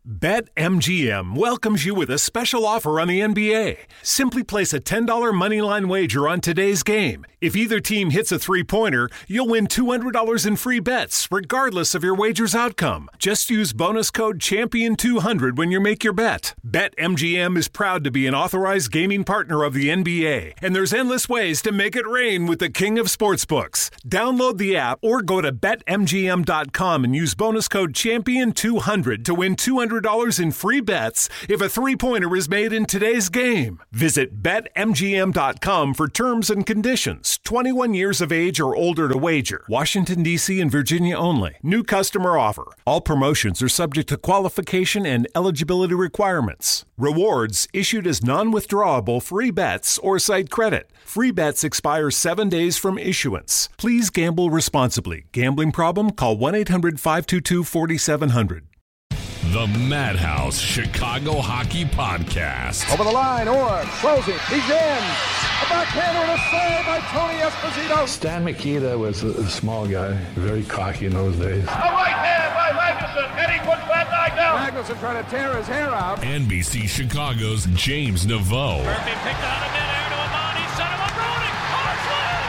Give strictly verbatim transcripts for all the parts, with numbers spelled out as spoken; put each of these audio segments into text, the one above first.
BetMGM welcomes you with a special offer on the N B A. Simply place a ten dollars moneyline wager on today's game. If either team hits a three-pointer, you'll win two hundred dollars in free bets, regardless of your wager's outcome. Just use bonus code champion two hundred when you make your bet. BetMGM is proud to be an authorized gaming partner of the N B A, and there's endless ways to make it rain with the king of sportsbooks. Download the app or go to bet M G M dot com and use bonus code champion two hundred to win two hundred dollars in free bets if a three-pointer is made in today's game. Visit bet M G M dot com for terms and conditions. twenty-one years of age or older to wager. Washington, D C and Virginia only. New customer offer. All promotions are subject to qualification and eligibility requirements. Rewards issued as non-withdrawable free bets or site credit. Free bets expire seven days from issuance. Please gamble responsibly. Gambling problem? Call one eight hundred five two two four seven zero zero. The Madhouse Chicago Hockey Podcast. Over the line, Orr, closing, he's in. A backhander and a save by Tony Esposito. Stan Mikita was a, a small guy, very cocky in those days. A right hand by Magnuson, and he puts that guy down. Magnuson trying to tear his hair out. N B C Chicago's James Naveau. Murphy picked out of midair to Amani, set him up, Roenick. Hartland!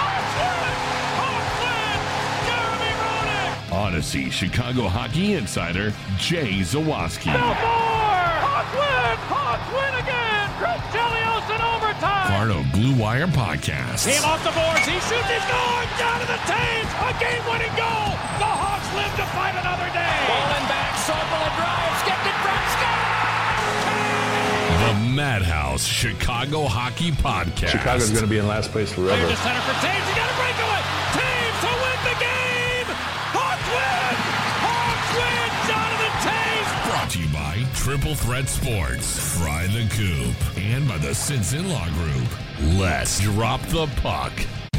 Hartland! Hartland! Jeremy Roenick! Odyssey Chicago Hockey Insider Jay Zawaski. No more! Hartland! Hartland again! Chris Chelios in overtime! Fardo Blue Wire Podcast. Team off the boards, he shoots, he scores! Down to the Taves! A game-winning goal! The Hawks live to fight another day! Bowling back, Sorbola drives, gets it from Scott! The Madhouse Chicago Hockey Podcast. Chicago's going to be in last place forever. Clear to center for Taves, he got a breakaway! Taves to win the game! Hawks win! Hawks win! Jonathan Taves! Brought to you by Triple Threat Sports, Fry the Coop, and by the Sins In-Law Group. Let's drop the puck.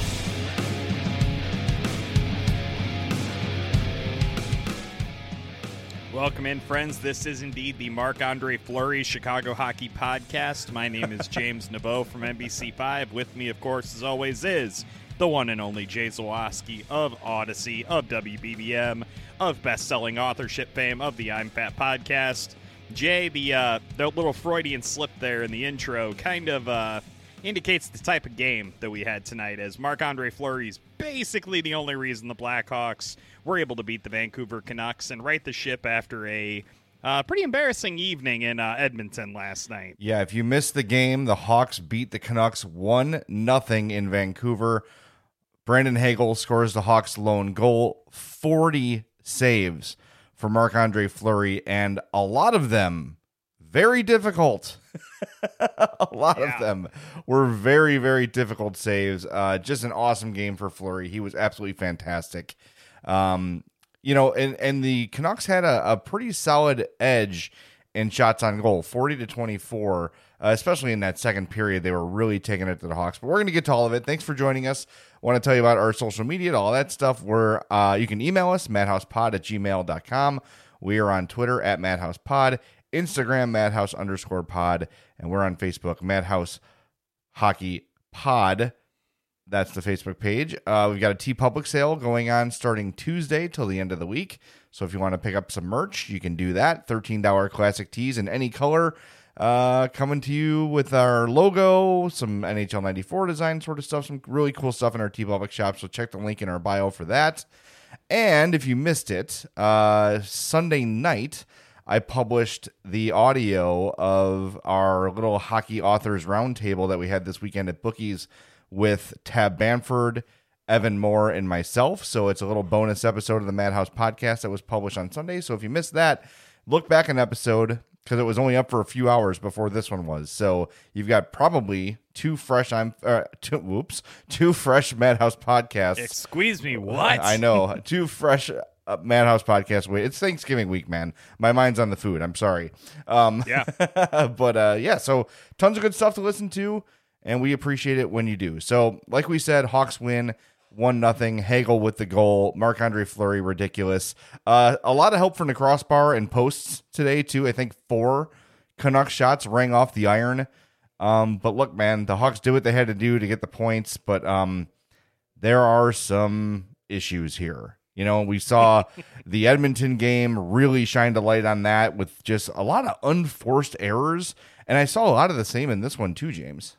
Welcome in, friends. This is indeed the Marc-Andre Fleury Chicago Hockey Podcast. My name is James Naveau from N B C five. With me, of course, as always, is the one and only Jay Zawaski of Odyssey, of W B B M, of best-selling authorship fame, of the I'm Fat podcast. Jay, the, uh, the little Freudian slip there in the intro kind of uh, indicates the type of game that we had tonight, as Marc-Andre Fleury is basically the only reason the Blackhawks were able to beat the Vancouver Canucks and right the ship after a uh, pretty embarrassing evening in uh, Edmonton last night. Yeah, if you missed the game, the Hawks beat the Canucks one nothing in Vancouver. Brandon Hagel scores the Hawks' lone goal, forty saves for Marc-Andre Fleury, and a lot of them very difficult. a lot yeah. of them were very, very difficult saves. Uh, just an awesome game for Fleury. He was absolutely fantastic. Um, you know, and, and the Canucks had a, a pretty solid edge in shots on goal, forty to twenty-four, uh, especially in that second period. They were really taking it to the Hawks. But we're going to get to all of it. Thanks for joining us. I want to tell you about our social media and all that stuff. Where uh, you can email us, madhousepod at gmail dot com. We are on Twitter at madhousepod, Instagram, madhouse underscore pod, and we're on Facebook, Madhouse Hockey Pod. That's the Facebook page. Uh, we've got a TeePublic sale going on starting Tuesday till the end of the week. So if you want to pick up some merch, you can do that. thirteen dollars classic tees in any color. Uh, coming to you with our logo, some N H L ninety-four design sort of stuff, some really cool stuff in our TeePublic shop. So check the link in our bio for that. And if you missed it, uh, Sunday night, I published the audio of our little hockey authors roundtable that we had this weekend at Bookies with Tab Bamford, Evan Moore, and myself. So it's a little bonus episode of the Madhouse podcast that was published on Sunday. So if you missed that, look back an episode because it was only up for a few hours before this one was. So you've got probably two fresh, I'm uh, two, whoops, two fresh Madhouse podcasts. Excuse me, what? I know, two fresh uh, Madhouse podcasts. Wait, it's Thanksgiving week, man. My mind's on the food. I'm sorry. Um, yeah, but uh, yeah, so tons of good stuff to listen to. And we appreciate it when you do. So, like we said, Hawks win one nothing. Hagel with the goal. Marc-Andre Fleury, ridiculous. Uh, a lot of help from the crossbar and posts today, too. I think four Canucks shots rang off the iron. Um, but look, man, the Hawks did what they had to do to get the points. But um, there are some issues here. You know, we saw the Edmonton game really shined a light on that with just a lot of unforced errors. And I saw a lot of the same in this one too, James.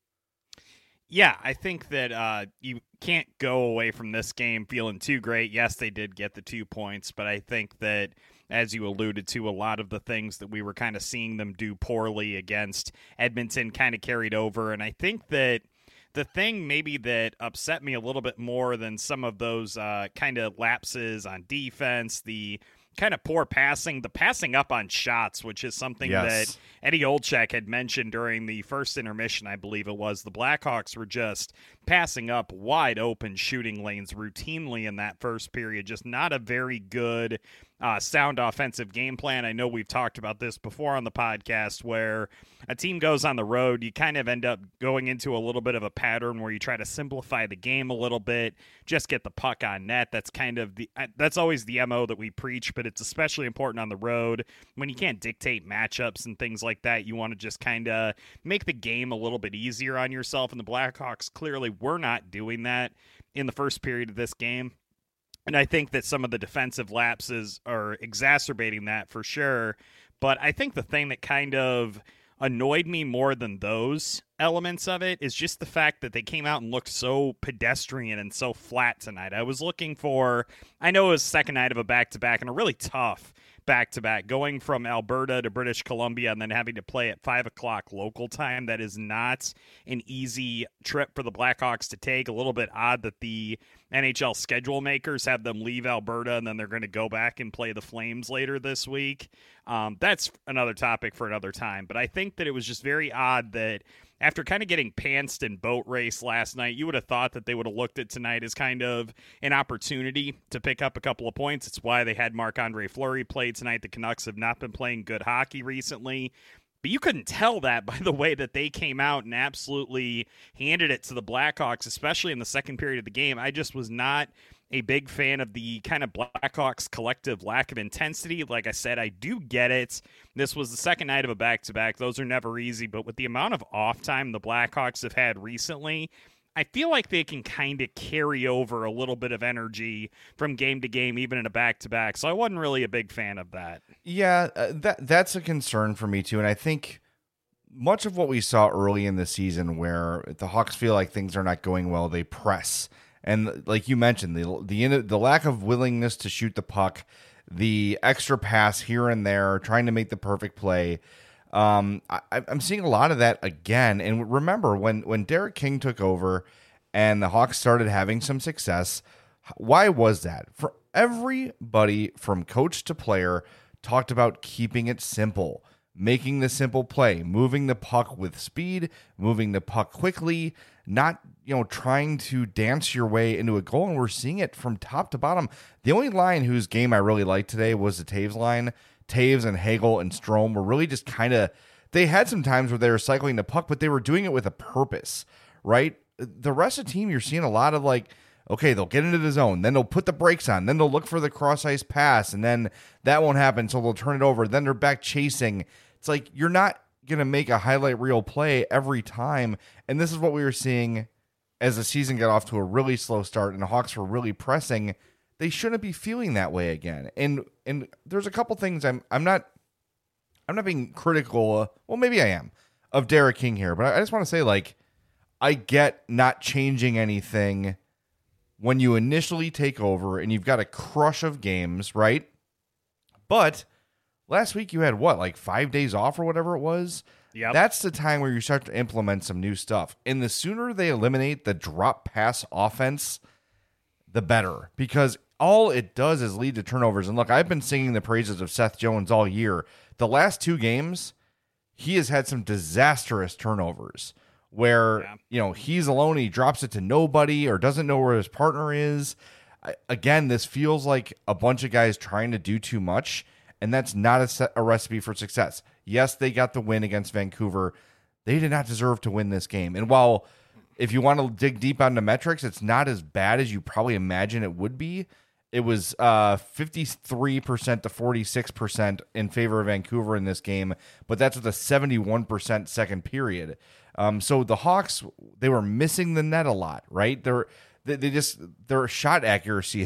Yeah, I think that uh, you can't go away from this game feeling too great. Yes, they did get the two points, but I think that, as you alluded to, a lot of the things that we were kind of seeing them do poorly against Edmonton kind of carried over. And I think that the thing maybe that upset me a little bit more than some of those uh, kind of lapses on defense, the kind of poor passing, the passing up on shots, which is something yes. that Eddie Olczyk had mentioned during the first intermission, I believe it was. The Blackhawks were just passing up wide open shooting lanes routinely in that first period. Just not a very good uh, sound offensive game plan. I know we've talked about this before on the podcast, where a team goes on the road, you kind of end up going into a little bit of a pattern where you try to simplify the game a little bit, just get the puck on net. That's kind of the, that's always the M O that we preach, but it's especially important on the road when you can't dictate matchups and things like that. You want to just kind of make the game a little bit easier on yourself, and the Blackhawks clearly were not doing that in the first period of this game. And I think that some of the defensive lapses are exacerbating that for sure. But I think the thing that kind of annoyed me more than those elements of it is just the fact that they came out and looked so pedestrian and so flat tonight. I was looking for, I know it was the second night of a back-to-back and a really tough back-to-back, going from Alberta to British Columbia and then having to play at five o'clock local time. That is not an easy trip for the Blackhawks to take. A little bit odd that the N H L schedule makers have them leave Alberta and then they're going to go back and play the Flames later this week. Um, that's another topic for another time. But I think that it was just very odd that after kind of getting pantsed in boat race last night, you would have thought that they would have looked at tonight as kind of an opportunity to pick up a couple of points. It's why they had Marc-Andre Fleury play tonight. The Canucks have not been playing good hockey recently. But you couldn't tell that by the way that they came out and absolutely handed it to the Blackhawks, especially in the second period of the game. I just was not a big fan of the kind of Blackhawks collective lack of intensity. Like I said, I do get it. This was the second night of a back-to-back. Those are never easy, but with the amount of off time the Blackhawks have had recently, I feel like they can kind of carry over a little bit of energy from game to game, even in a back-to-back. So I wasn't really a big fan of that. Yeah, uh, that that's a concern for me too. And I think much of what we saw early in the season where the Hawks feel like things are not going well, they press. And like you mentioned, the the the lack of willingness to shoot the puck, the extra pass here and there, trying to make the perfect play. Um, I, I'm seeing a lot of that again. And remember, when, when Derek King took over and the Hawks started having some success, why was that? For everybody from coach to player talked about keeping it simple, making the simple play, moving the puck with speed, moving the puck quickly, not, you know, trying to dance your way into a goal. And we're seeing it from top to bottom. The only line whose game I really liked today was the Taves line. Taves and Hagel and Strome were really just kind of, they had some times where they were cycling the puck, but they were doing it with a purpose, right? The rest of the team, you're seeing a lot of like, okay, they'll get into the zone, then they'll put the brakes on, then they'll look for the cross-ice pass, and then that won't happen, so they'll turn it over, then they're back chasing. It's like, you're not going to make a highlight reel play every time, and this is what we were seeing as the season got off to a really slow start, and the Hawks were really pressing. They shouldn't be feeling that way again. And and there's a couple things I'm I'm not I'm not being critical. Uh, well, maybe I am of Derek King here, but I, I just want to say, like, I get not changing anything when you initially take over and you've got a crush of games, right? But last week you had what, like five days off or whatever it was? Yeah. That's the time where you start to implement some new stuff. And the sooner they eliminate the drop pass offense, the better, because all it does is lead to turnovers. And look, I've been singing the praises of Seth Jones all year. The last two games, he has had some disastrous turnovers where, yeah. you know, he's alone, he drops it to nobody or doesn't know where his partner is. I, again, this feels like a bunch of guys trying to do too much, and that's not a, set, a recipe for success. Yes, they got the win against Vancouver. They did not deserve to win this game. And while if you want to dig deep on the metrics, it's not as bad as you probably imagine it would be. It was uh, fifty-three percent to forty-six percent in favor of Vancouver in this game, but that's with a seventy-one percent second period. Um, so the Hawks, they were missing the net a lot, right? They're, they, they just, their shot accuracy is,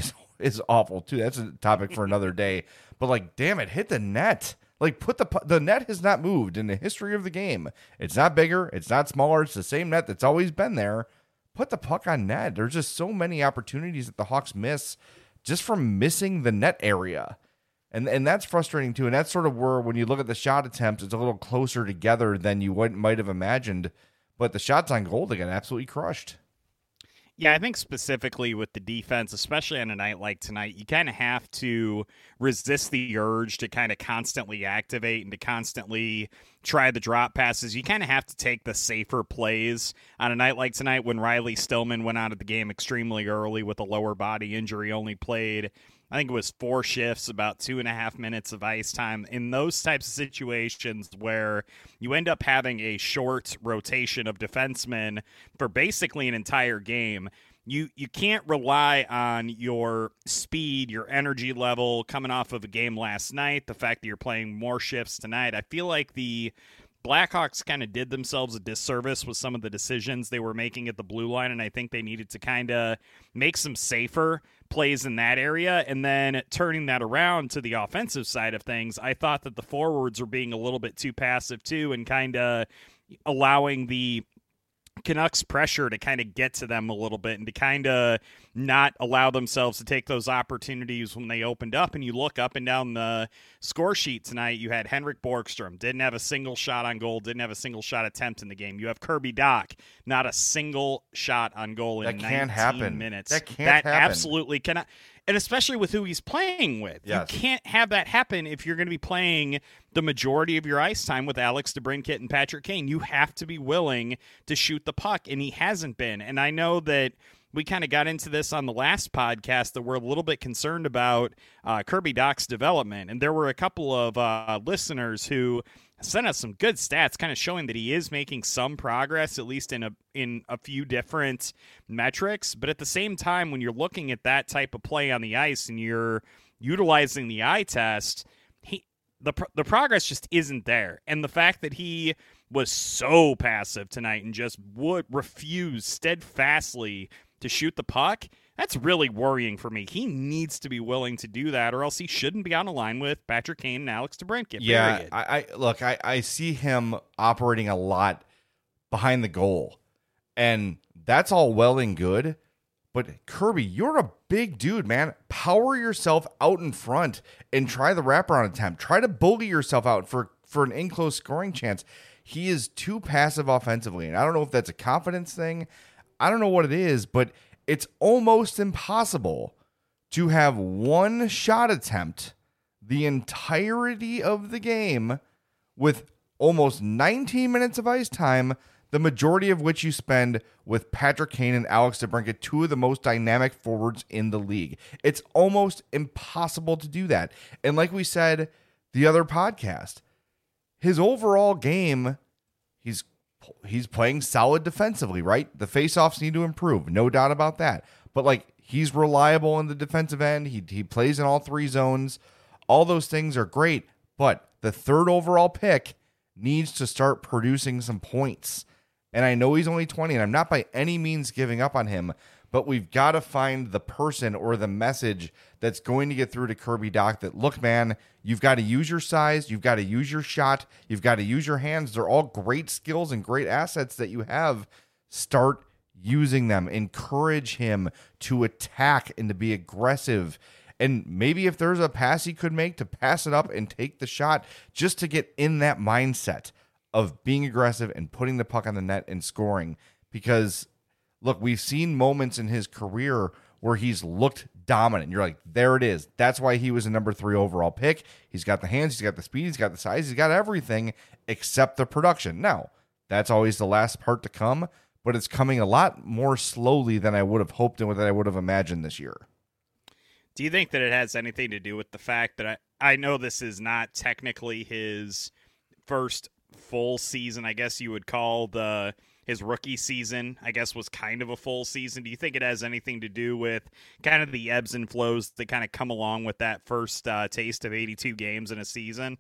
is awful too. That's a topic for another day. But like, damn it, hit the net. Like, put the the net has not moved in the history of the game. It's not bigger. It's not smaller. It's the same net that's always been there. Put the puck on net. There's just so many opportunities that the Hawks miss just from missing the net area. And and that's frustrating too. And that's sort of where, when you look at the shot attempts, it's a little closer together than you would, might have imagined. But the shots on goal, they got absolutely crushed. Yeah, I think specifically with the defense, especially on a night like tonight, you kind of have to resist the urge to kind of constantly activate and to constantly try the drop passes. You kind of have to take the safer plays on a night like tonight when Riley Stillman went out of the game extremely early with a lower body injury, only played, I think it was four shifts, about two and a half minutes of ice time. In those types of situations where you end up having a short rotation of defensemen for basically an entire game, you you can't rely on your speed, your energy level coming off of a game last night, the fact that you're playing more shifts tonight. I feel like the Blackhawks kind of did themselves a disservice with some of the decisions they were making at the blue line, and I think they needed to kind of make some safer plays in that area. And then turning that around to the offensive side of things, I thought that the forwards were being a little bit too passive too, and kind of allowing the Canucks pressure to kind of get to them a little bit and to kind of not allow themselves to take those opportunities when they opened up. And you look up and down the score sheet tonight, you had Henrik Borgstrom, didn't have a single shot on goal, didn't have a single shot attempt in the game. You have Kirby Dach, not a single shot on goal in that can't nineteen happen. minutes. That can't that happen. absolutely cannot. And especially with who he's playing with. Yes. You can't have that happen if you're going to be playing the majority of your ice time with Alex DeBrincat and Patrick Kane. You have to be willing to shoot the puck, and he hasn't been. And I know that we kind of got into this on the last podcast that we're a little bit concerned about uh, Kirby Dach's development. And there were a couple of uh, listeners who sent us some good stats kind of showing that he is making some progress, at least in a in a few different metrics. But at the same time, when you're looking at that type of play on the ice and you're utilizing the eye test, he the the progress just isn't there. And the fact that he was so passive tonight and just would refuse steadfastly to shoot the puck, that's really worrying for me. He needs to be willing to do that, or else he shouldn't be on a line with Patrick Kane and Alex DeBrincat. Yeah, period. I, I look, I, I see him operating a lot behind the goal, and that's all well and good. But Kirby, you're a big dude, man. Power yourself out in front and try the wraparound attempt. Try to bully yourself out for, for an in-close scoring chance. He is too passive offensively, and I don't know if that's a confidence thing. I don't know what it is, but it's almost impossible to have one shot attempt the entirety of the game with almost nineteen minutes of ice time, the majority of which you spend with Patrick Kane and Alex DeBrincat, two of the most dynamic forwards in the league. It's almost impossible to do that. And like we said the other podcast, his overall game, he's He's playing solid defensively, right? The faceoffs need to improve, no doubt about that. But like, he's reliable in the defensive end. He he plays in all three zones. All those things are great, but the third overall pick needs to start producing some points. And I know he's only twenty, and I'm not by any means giving up on him, but we've got to find the person or the message that's going to get through to Kirby Dach that, look, man, you've got to use your size, you've got to use your shot, you've got to use your hands. They're all great skills and great assets that you have. Start using them. Encourage him to attack and to be aggressive. And maybe if there's a pass he could make, to pass it up and take the shot, just to get in that mindset of being aggressive and putting the puck on the net and scoring. Because look, we've seen moments in his career where he's looked dominant. You're like, there it is. That's why he was a number three overall pick. He's got the hands, he's got the speed, he's got the size, he's got everything except the production. Now, that's always the last part to come, but it's coming a lot more slowly than I would have hoped and that I would have imagined this year. Do you think that it has anything to do with the fact that I, I know this is not technically his first full season, I guess you would call the his rookie season, I guess, was kind of a full season. Do you think it has anything to do with kind of the ebbs and flows that kind of come along with that first uh, taste of eighty-two games in a season?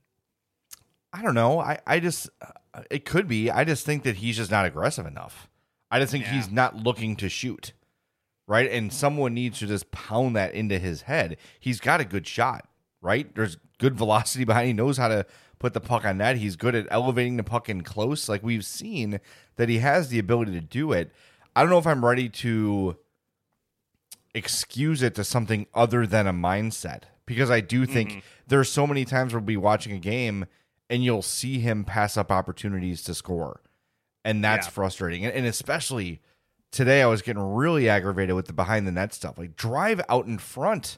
I don't know. I, I just, uh, it could be. I just think that he's just not aggressive enough. I just think yeah. he's not looking to shoot. right? And someone needs to just pound that into his head. He's got a good shot, right? There's good velocity behind. He knows how to put the puck on net. He's good at elevating the puck in close. Like, we've seen that he has the ability to do it. I don't know if I'm ready to excuse it to something other than a mindset, because I do think mm-hmm. there's so many times we'll be watching a game and you'll see him pass up opportunities to score. And that's yeah. frustrating. And, and especially today, I was getting really aggravated with the behind the net stuff. Like, drive out in front.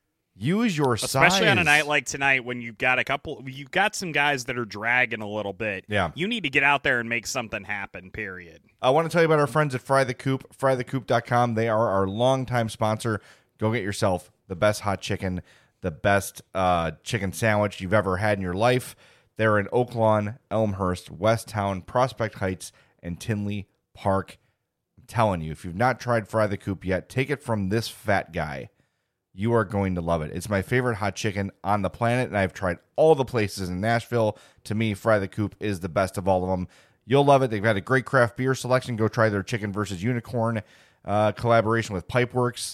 Use your Especially size. Especially on a night like tonight when you've got a couple, you've got some guys that are dragging a little bit. Yeah. You need to get out there and make something happen, period. I want to tell you about our friends at Fry the Coop, fry the coop dot com. They are our longtime sponsor. Go get yourself the best hot chicken, the best uh, chicken sandwich you've ever had in your life. They're in Oak Lawn, Elmhurst, Westtown, Prospect Heights, and Tinley Park. I'm telling you, if you've not tried Fry the Coop yet, take it from this fat guy. You are going to love it. It's my favorite hot chicken on the planet, and I've tried all the places in Nashville. To me, Fry the Coop is the best of all of them. You'll love it. They've got a great craft beer selection. Go try their Chicken versus Unicorn uh, collaboration with Pipeworks.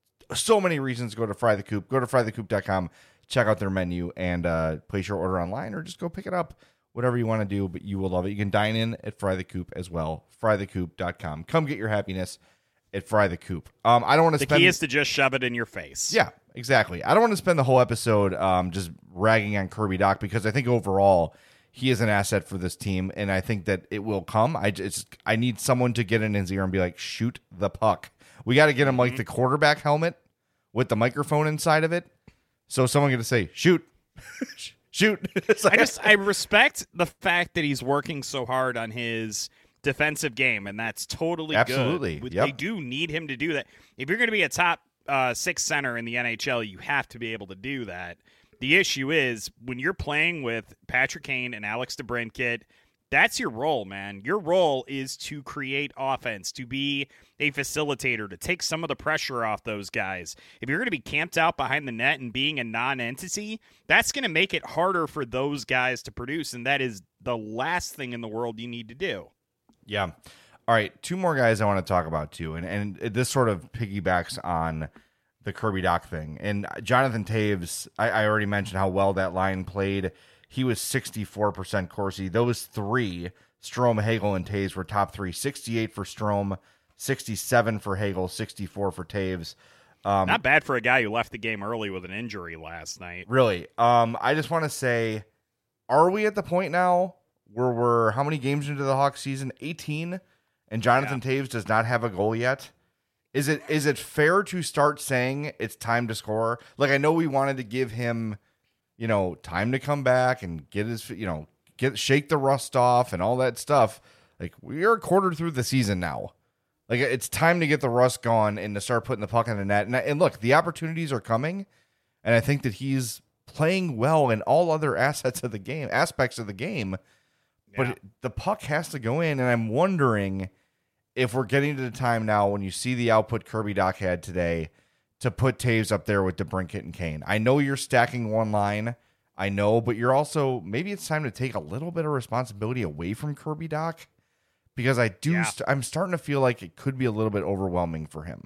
So many reasons to go to Fry the Coop. Go to fry the coop dot com. Check out their menu and uh, place your order online, or just go pick it up. Whatever you want to do, but you will love it. You can dine in at Fry the Coop as well. fry the coop dot com. Come get your happiness at Fry the Coop. Um, I don't want to the spend... key is to just shove it in your face. Yeah, exactly. I don't want to spend the whole episode um, just ragging on Kirby Dach, because I think overall he is an asset for this team, and I think that it will come. I just I need someone to get in his ear and be like, shoot the puck. We got to get him like the quarterback helmet with the microphone inside of it. So someone going to say, shoot, shoot. Like, I just, I respect the fact that he's working so hard on his defensive game, and that's totally absolutely good. Yep. They do need him to do that. If you're going to be a top uh, six center in the N H L, you have to be able to do that. The issue is when you're playing with Patrick Kane and Alex DeBrincat, that's your role, man. Your role is to create offense, to be a facilitator, to take some of the pressure off those guys. If you're going to be camped out behind the net and being a non-entity, that's going to make it harder for those guys to produce, and that is the last thing in the world you need to do. Yeah. All right, two more guys I want to talk about, too, and, and this sort of piggybacks on the Kirby Dach thing. And Jonathan Toews, I, I already mentioned how well that line played. He was sixty-four percent Corsi. Those three, Strome, Hagel, and Toews, were top three. sixty-eight for Strome, sixty-seven for Hagel, sixty-four for Toews. Um, Not bad for a guy who left the game early with an injury last night. Really. Um, I just want to say, are we at the point now where we're how many games into the Hawks season? eighteen, and Jonathan yeah. Toews does not have a goal yet? Is it is it fair to start saying it's time to score? Like, I know we wanted to give him, you know, time to come back and get his, you know, get shake the rust off and all that stuff. Like, we are a quarter through the season now. Like, it's time to get the rust gone and to start putting the puck in the net. And, and look, the opportunities are coming, and I think that he's playing well in all other assets of the game, aspects of the game. But Yeah. it, the puck has to go in, and I'm wondering if we're getting to the time now when you see the output Kirby Dach had today to put Toews up there with DeBrincat and Kane. I know you're stacking one line, I know, but you're also, maybe it's time to take a little bit of responsibility away from Kirby Dach, because I do, Yeah. st- I'm starting to feel like it could be a little bit overwhelming for him.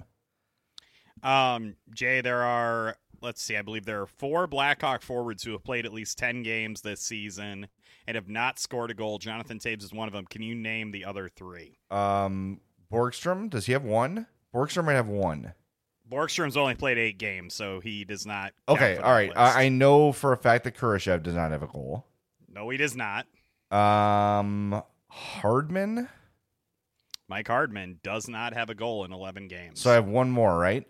Um, Jay, there are, let's see, I believe there are four Blackhawk forwards who have played at least ten games this season and have not scored a goal. Jonathan Toews is one of them. Can you name the other three? Um, Borgstrom, does he have one? Borgstrom might have one. Borgstrom's only played eight games, so he does not. count Okay, for all that right. list. I, I know for a fact that Kurashev does not have a goal. No, he does not. Um, Hardman. Mike Hardman does not have a goal in eleven games. So I have one more, right?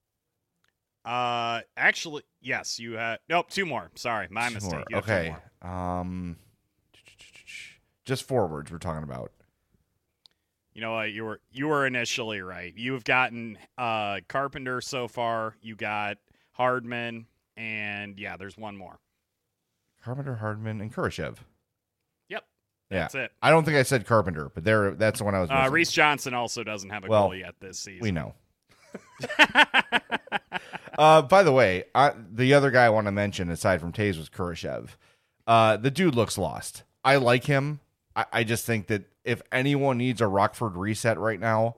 Uh, actually, yes, you had. Nope, two more. Sorry, my Two mistake. more. You have two Okay. more. Um, just forwards we're talking about. You know what? You were you were initially right. You have gotten uh, Carpenter so far. You got Hardman, and yeah, there's one more. Carpenter, Hardman, and Kurashev. Yep, Yeah. that's it. I don't think I said Carpenter, but there, that's the one I was Uh, missing. Reese Johnson also doesn't have a Well, goal yet this season. We know. uh, by the way, I, the other guy I want to mention aside from Toews was Kurashev. Uh, the dude looks lost. I like him. I, I just think that if anyone needs a Rockford reset right now,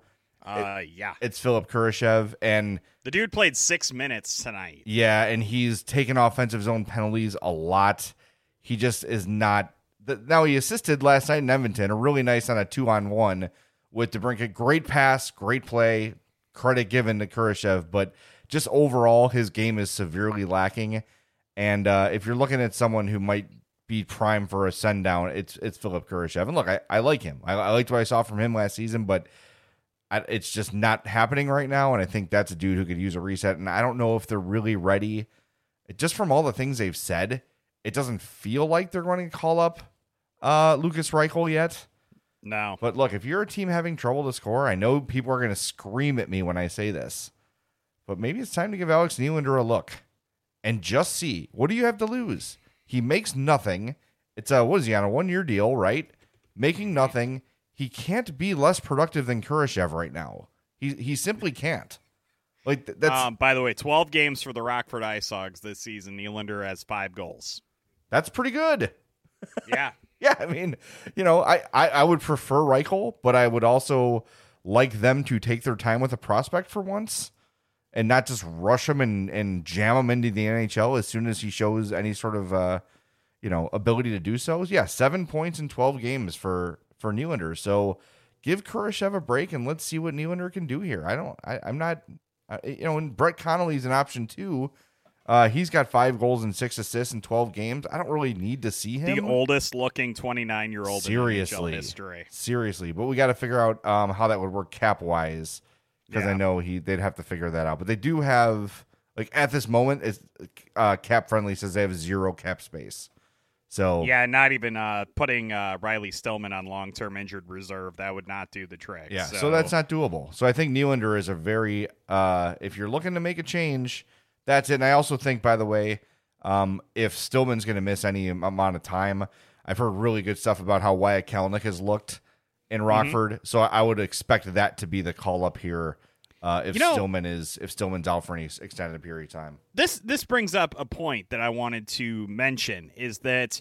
Uh, yeah. It's Philip Kurashev, and the dude played six minutes tonight. Yeah, and he's taken offensive zone penalties a lot. He just is not. Now, he assisted last night in Edmonton, a really nice on a two-on-one with DeBrincat. Great pass, great play, credit given to Kurashev, but just overall, his game is severely lacking. And uh, if you're looking at someone who might be prime for a send-down, it's it's Philip Kurashev. And look, I, I like him. I, I liked what I saw from him last season, but I, it's just not happening right now, and I think that's a dude who could use a reset. And I don't know if they're really ready. Just from all the things they've said, it doesn't feel like they're going to call up uh, Lukas Reichel yet. No. But look, if you're a team having trouble to score, I know people are going to scream at me when I say this, but maybe it's time to give Alex Nylander a look and just see, what do you have to lose? He makes nothing. It's a, what is he, on a one-year deal, right? Making nothing. He can't be less productive than Kurashev right now. He he simply can't. Like th- that's. Um, by the way, twelve games for the Rockford Ice Hogs this season. Nylander has five goals. That's pretty good. Yeah. Yeah, I mean, you know, I, I, I would prefer Reichel, but I would also like them to take their time with a prospect for once and not just rush him and, and jam him into the N H L as soon as he shows any sort of, uh, you know, ability to do so. Yeah, seven points in twelve games for, for Nylander. So give Kurashev a break and let's see what Nylander can do here. I don't, I, I'm not, uh, you know, and Brett Connolly's an option too. Uh, he's got five goals and six assists in twelve games. I don't really need to see him. The oldest looking twenty-nine-year-old in N H L history. Seriously. But we got to figure out um, how that would work cap-wise because yeah. I know he they'd have to figure that out. But they do have, like, at this moment, it's, uh, cap-friendly says they have zero cap space. So yeah, not even uh, putting uh, Riley Stillman on long-term injured reserve. That would not do the trick. Yeah, so, so that's not doable. So I think Nylander is a very, uh, if you're looking to make a change, that's it. And I also think, by the way, um, if Stillman's going to miss any amount of time, I've heard really good stuff about how Wyatt Kalynuk has looked in Rockford. Mm-hmm. So I would expect that to be the call up here uh, if you know, Stillman is if Stillman's out for any extended period of time. This this brings up a point that I wanted to mention is that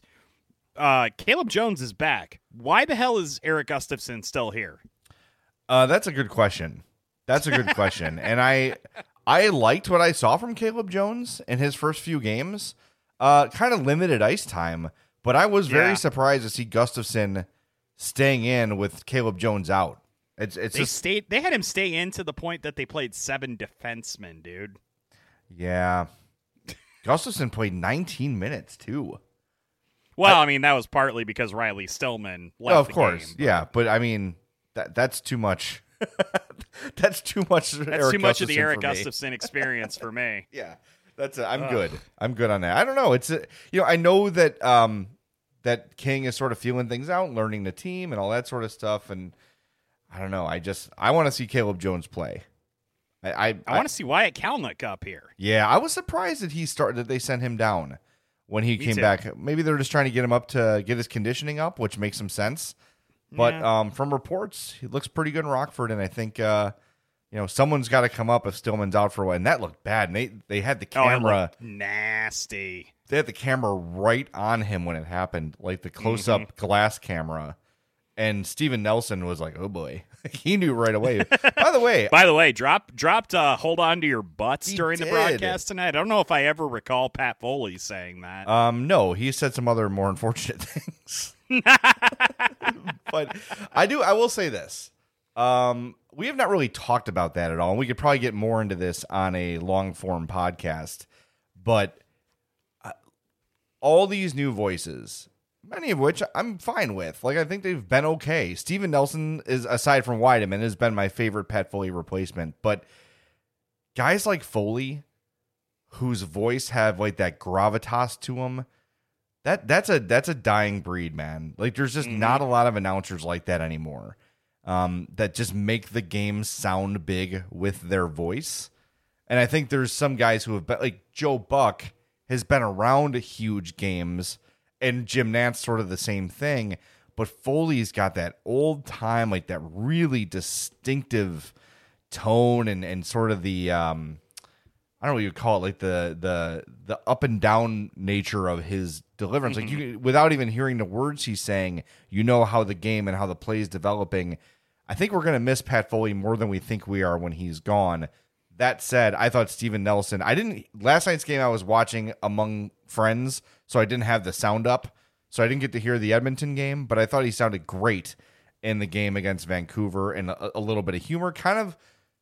uh, Caleb Jones is back. Why the hell is Eric Gustafson still here? Uh, that's a good question. That's a good question, and I. I liked what I saw from Caleb Jones in his first few games. Uh, kind of limited ice time, but I was very yeah. surprised to see Gustafson staying in with Caleb Jones out. It's it's they just, stayed. They had him stay in to the point that they played seven defensemen, dude. Yeah, Gustafson played nineteen minutes too. Well, I, I mean that was partly because Riley Stillman left. Oh, of the course, game, but. yeah, but I mean that that's too much. That's too much. That's Eric too much Gustafson of the Eric for Gustafson experience for me. Yeah, that's. A, I'm Ugh. good. I'm good on that. I don't know. It's a, you know I know that um that King is sort of feeling things out, learning the team and all that sort of stuff, and I don't know. I just I want to see Caleb Jones play. I I, I, I want to see Wyatt Kalynuk up here. Yeah, I was surprised that he started that they sent him down when he Me came too. back. Maybe they're just trying to get him up to get his conditioning up, which makes some sense. But yeah. um, from reports, he looks pretty good in Rockford, and I think uh, you know someone's got to come up if Stillman's out for a while. And that looked bad. And they they had the camera oh, nasty. They had the camera right on him when it happened, like the close up mm-hmm. glass camera. And Steven Nelson was like, "Oh boy," he knew right away. By the way, by the way, drop dropped uh, "Hold On to Your Butts" during did. the broadcast tonight. I don't know if I ever recall Pat Foley saying that. Um, no, he said some other more unfortunate things. But I do. I will say this. Um, we have not really talked about that at all. And we could probably get more into this on a long form podcast. But uh, all these new voices, many of which I'm fine with. Like, I think they've been okay. Steven Nelson is, aside from Weideman, has been my favorite Pat Foley replacement. But guys like Foley, whose voice have like that gravitas to them, that that's a that's a dying breed, man. Like, there's just mm-hmm. not a lot of announcers like that anymore. Um, that just make the game sound big with their voice. And I think there's some guys who have been, like Joe Buck has been around huge games, and Jim Nantz sort of the same thing. But Foley's got that old time, like that really distinctive tone and, and sort of the, um, I don't know what you call it, like the the the up and down nature of his deliverance. Mm-hmm. Like you, without even hearing the words he's saying, you know how the game and how the play is developing. I think we're going to miss Pat Foley more than we think we are when he's gone. That said, I thought Steven Nelson, I didn't, last night's game I was watching among friends, so I didn't have the sound up, so I didn't get to hear the Edmonton game, but I thought he sounded great in the game against Vancouver, and a, a little bit of humor, kind of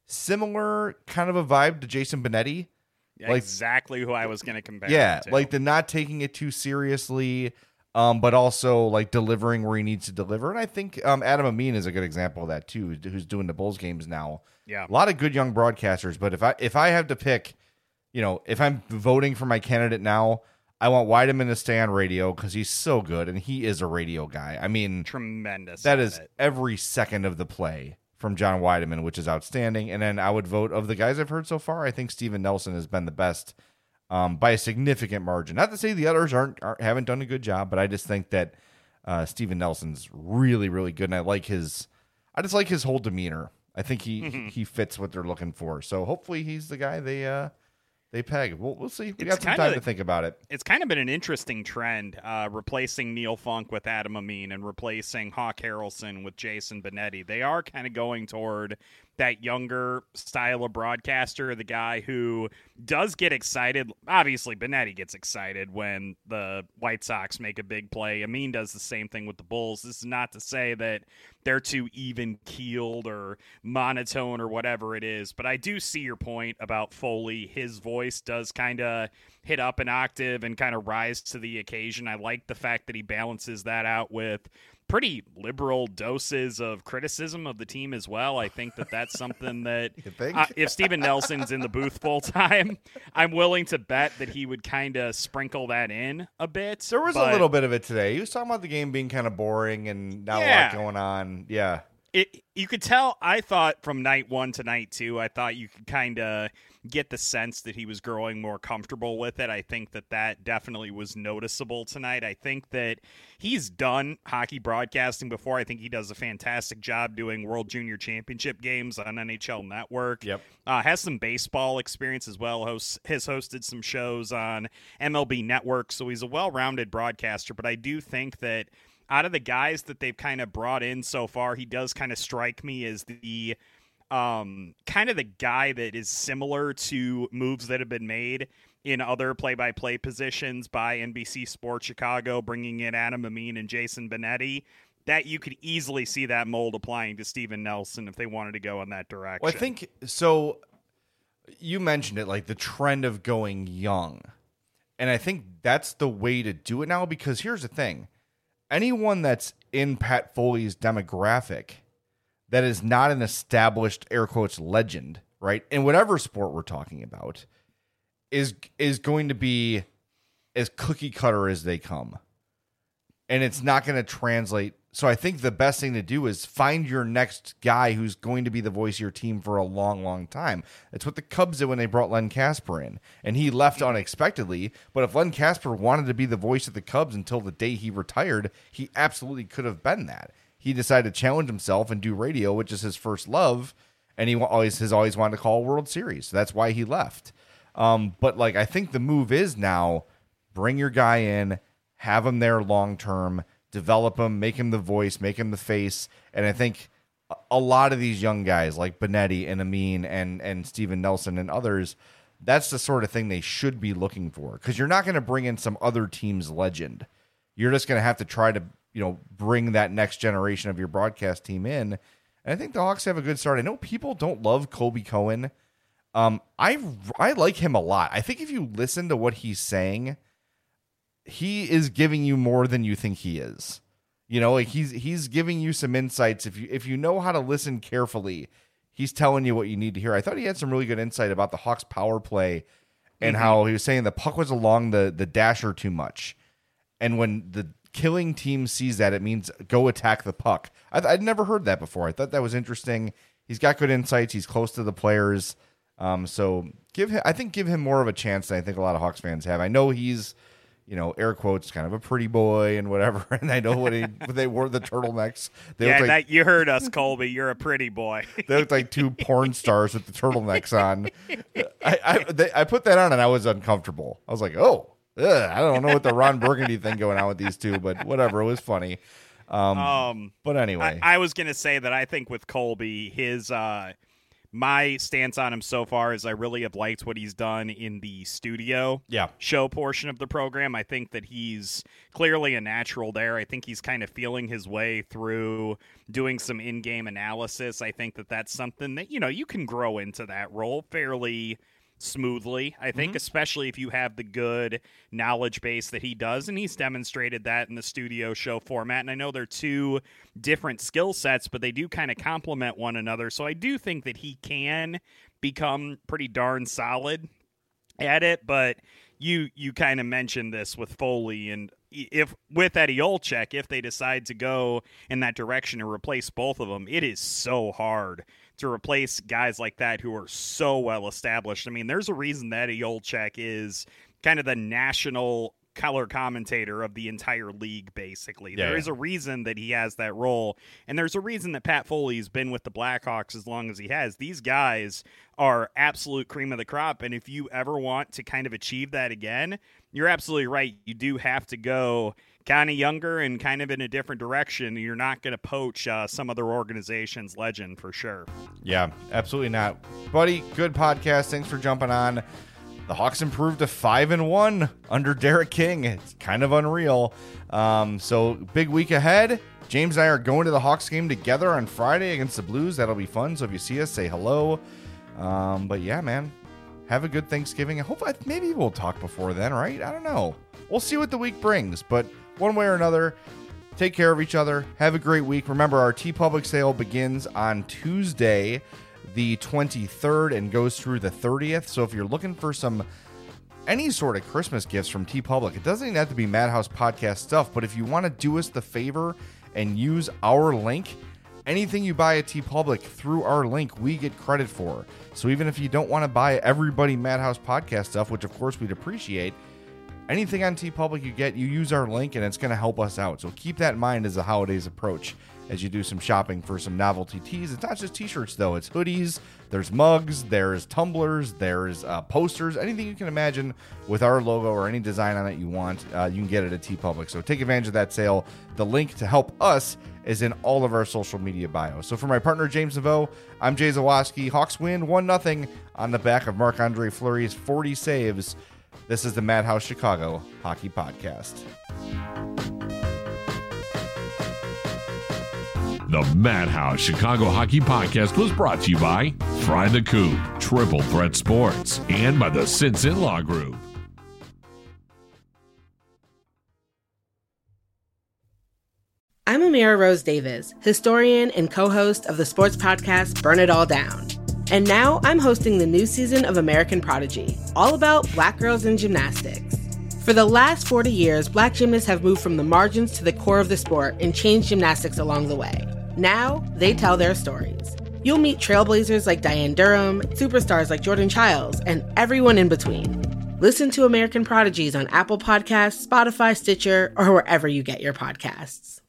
similar kind of a vibe to Jason Benetti. Like, exactly who I was going to compare Yeah, him to. like the not taking it too seriously, um, but also like delivering where he needs to deliver. And I think um, Adam Amin is a good example of that too, who's doing the Bulls games now. Yeah, a lot of good young broadcasters. But if I if I have to pick, you know, if I'm voting for my candidate now, I want Weideman to stay on radio because he's so good and he is a radio guy. I mean, tremendous. That is it. every second of the play from John Weideman, which is outstanding. And then I would vote, of the guys I've heard so far, I think Steven Nelson has been the best um, by a significant margin. Not to say the others aren't, aren't haven't done a good job, but I just think that uh, Steven Nelson's really, really good. And I like his, I just like his whole demeanor. I think he mm-hmm. he fits what they're looking for. So hopefully he's the guy they uh, they peg. We'll, we'll see. We it's got some time of, to think about it. It's kind of been an interesting trend, uh, replacing Neil Funk with Adam Amin and replacing Hawk Harrelson with Jason Benetti. They are kind of going toward that younger style of broadcaster, the guy who does get excited. Obviously, Benetti gets excited when the White Sox make a big play. Amin does the same thing with the Bulls. This is not to say that they're too even-keeled or monotone or whatever it is, but I do see your point about Foley. His voice does kind of hit up an octave and kind of rise to the occasion. I like the fact that he balances that out with pretty liberal doses of criticism of the team as well. I think that that's something that uh, if Steven Nelson's in the booth full time, I'm willing to bet that he would kind of sprinkle that in a bit. There was but, a little bit of it today. He was talking about the game being kind of boring and not yeah. a lot going on. Yeah. It, you could tell, I thought from night one to night two, I thought you could kind of get the sense that he was growing more comfortable with it. I think that that definitely was noticeable tonight. I think that he's done hockey broadcasting before. I think he does a fantastic job doing World Junior Championship games on N H L Network. Yep. Uh, has some baseball experience as well. Hosts, has hosted some shows on M L B Network, so he's a well-rounded broadcaster. But I do think that out of the guys that they've kind of brought in so far, he does kind of strike me as the um, kind of the guy that is similar to moves that have been made in other play-by-play positions by N B C Sports Chicago, bringing in Adam Amin and Jason Benetti, that you could easily see that mold applying to Steven Nelson if they wanted to go in that direction. Well, I think, so you mentioned it, like the trend of going young. And I think that's the way to do it now, because here's the thing. Anyone that's in Pat Foley's demographic that is not an established, air quotes, legend, right, in whatever sport we're talking about, is is going to be as cookie cutter as they come. And it's not going to translate. So I think the best thing to do is find your next guy who's going to be the voice of your team for a long, long time. That's what the Cubs did when they brought Len Kasper in. And he left unexpectedly. But if Len Kasper wanted to be the voice of the Cubs until the day he retired, he absolutely could have been that. He decided to challenge himself and do radio, which is his first love. And he always has always wanted to call a World Series. So that's why he left. Um, but like I think the move is now bring your guy in, have him there long term, develop him, make him the voice, make him the face. And I think a lot of these young guys like Benetti and Amin and, and Steven Nelson and others, that's the sort of thing they should be looking for, because you're not going to bring in some other team's legend. You're just going to have to try to, you know, bring that next generation of your broadcast team in. And I think the Hawks have a good start. I know people don't love Colby Cohen. Um, I, I like him a lot. I think if you listen to what he's saying, he is giving you more than you think he is. You know, like he's he's giving you some insights. If you if you know how to listen carefully, he's telling you what you need to hear. I thought he had some really good insight about the Hawks power play and mm-hmm. how he was saying the puck was along the, the dasher too much. And when the killing team sees that, it means go attack the puck. I, I'd never heard that before. I thought that was interesting. He's got good insights. He's close to the players. Um, so give him, I think give him more of a chance than I think a lot of Hawks fans have. I know he's, you know, air quotes, kind of a pretty boy and whatever. And I know when, he, when they wore the turtlenecks. They yeah, like, that, you heard us, Colby. You're a pretty boy. They looked like two porn stars with the turtlenecks on. I I, they, I put that on and I was uncomfortable. I was like, oh, ugh, I don't know what the Ron Burgundy thing going on with these two, but whatever. It was funny. Um, Um, but anyway, I, I was going to say that I think with Colby, his uh, my stance on him so far is I really have liked what he's done in the studio yeah. show portion of the program. I think that he's clearly a natural there. I think he's kind of feeling his way through doing some in-game analysis. I think that that's something that, you know, you can grow into that role fairly smoothly, I think, mm-hmm. especially if you have the good knowledge base that he does, and he's demonstrated that in the studio show format. And I know they're two different skill sets, but they do kind of complement one another. So I do think that he can become pretty darn solid at it. But you you kind of mentioned this with Foley, and if with Eddie Olczyk, if they decide to go in that direction and replace both of them, it is so hard to replace guys like that who are so well established. I mean, there's a reason that Eddie Olczyk is kind of the national color commentator of the entire league, basically. Yeah, there yeah. is a reason that he has that role, and there's a reason that Pat Foley's been with the Blackhawks as long as he has. These guys are absolute cream of the crop, and if you ever want to kind of achieve that again, you're absolutely right. You do have to go kind of younger and kind of in a different direction. You're not going to poach uh, some other organization's legend for sure. Yeah, absolutely not. Buddy, good podcast. Thanks for jumping on. The Hawks improved to five and one under Derek King. It's kind of unreal. Um, so big week ahead. James and I are going to the Hawks game together on Friday against the Blues. That'll be fun. So if you see us, say hello. Um, but yeah, man, have a good Thanksgiving. I hope I, maybe we'll talk before then, right? I don't know. We'll see what the week brings, but one way or another, take care of each other. Have a great week. Remember, our TeePublic sale begins on Tuesday, the twenty-third, and goes through the thirtieth. So if you're looking for some any sort of Christmas gifts from TeePublic, it doesn't even have to be Madhouse Podcast stuff, but if you want to do us the favor and use our link, anything you buy at TeePublic through our link, we get credit for. So even if you don't want to buy everybody Madhouse Podcast stuff, which of course we'd appreciate, anything on TeePublic you get, you use our link, and it's going to help us out. So keep that in mind as the holidays approach as you do some shopping for some novelty tees. It's not just t-shirts, though. It's hoodies, there's mugs, there's tumblers, there's uh, posters, anything you can imagine with our logo or any design on it you want, uh, you can get it at TeePublic. So take advantage of that sale. The link to help us is in all of our social media bios. So for my partner, James Naveau, I'm Jay Zawaski. Hawks win one nothing on the back of Marc-Andre Fleury's forty saves. This is the Madhouse Chicago Hockey Podcast. The Madhouse Chicago Hockey Podcast was brought to you by Fry the Coop, Triple Threat Sports, and by the Sinson Law Group. I'm Amira Rose Davis, historian and co-host of the sports podcast Burn It All Down. And now I'm hosting the new season of American Prodigy, all about Black girls in gymnastics. For the last forty years, Black gymnasts have moved from the margins to the core of the sport and changed gymnastics along the way. Now, they tell their stories. You'll meet trailblazers like Diane Durham, superstars like Jordan Childs, and everyone in between. Listen to American Prodigies on Apple Podcasts, Spotify, Stitcher, or wherever you get your podcasts.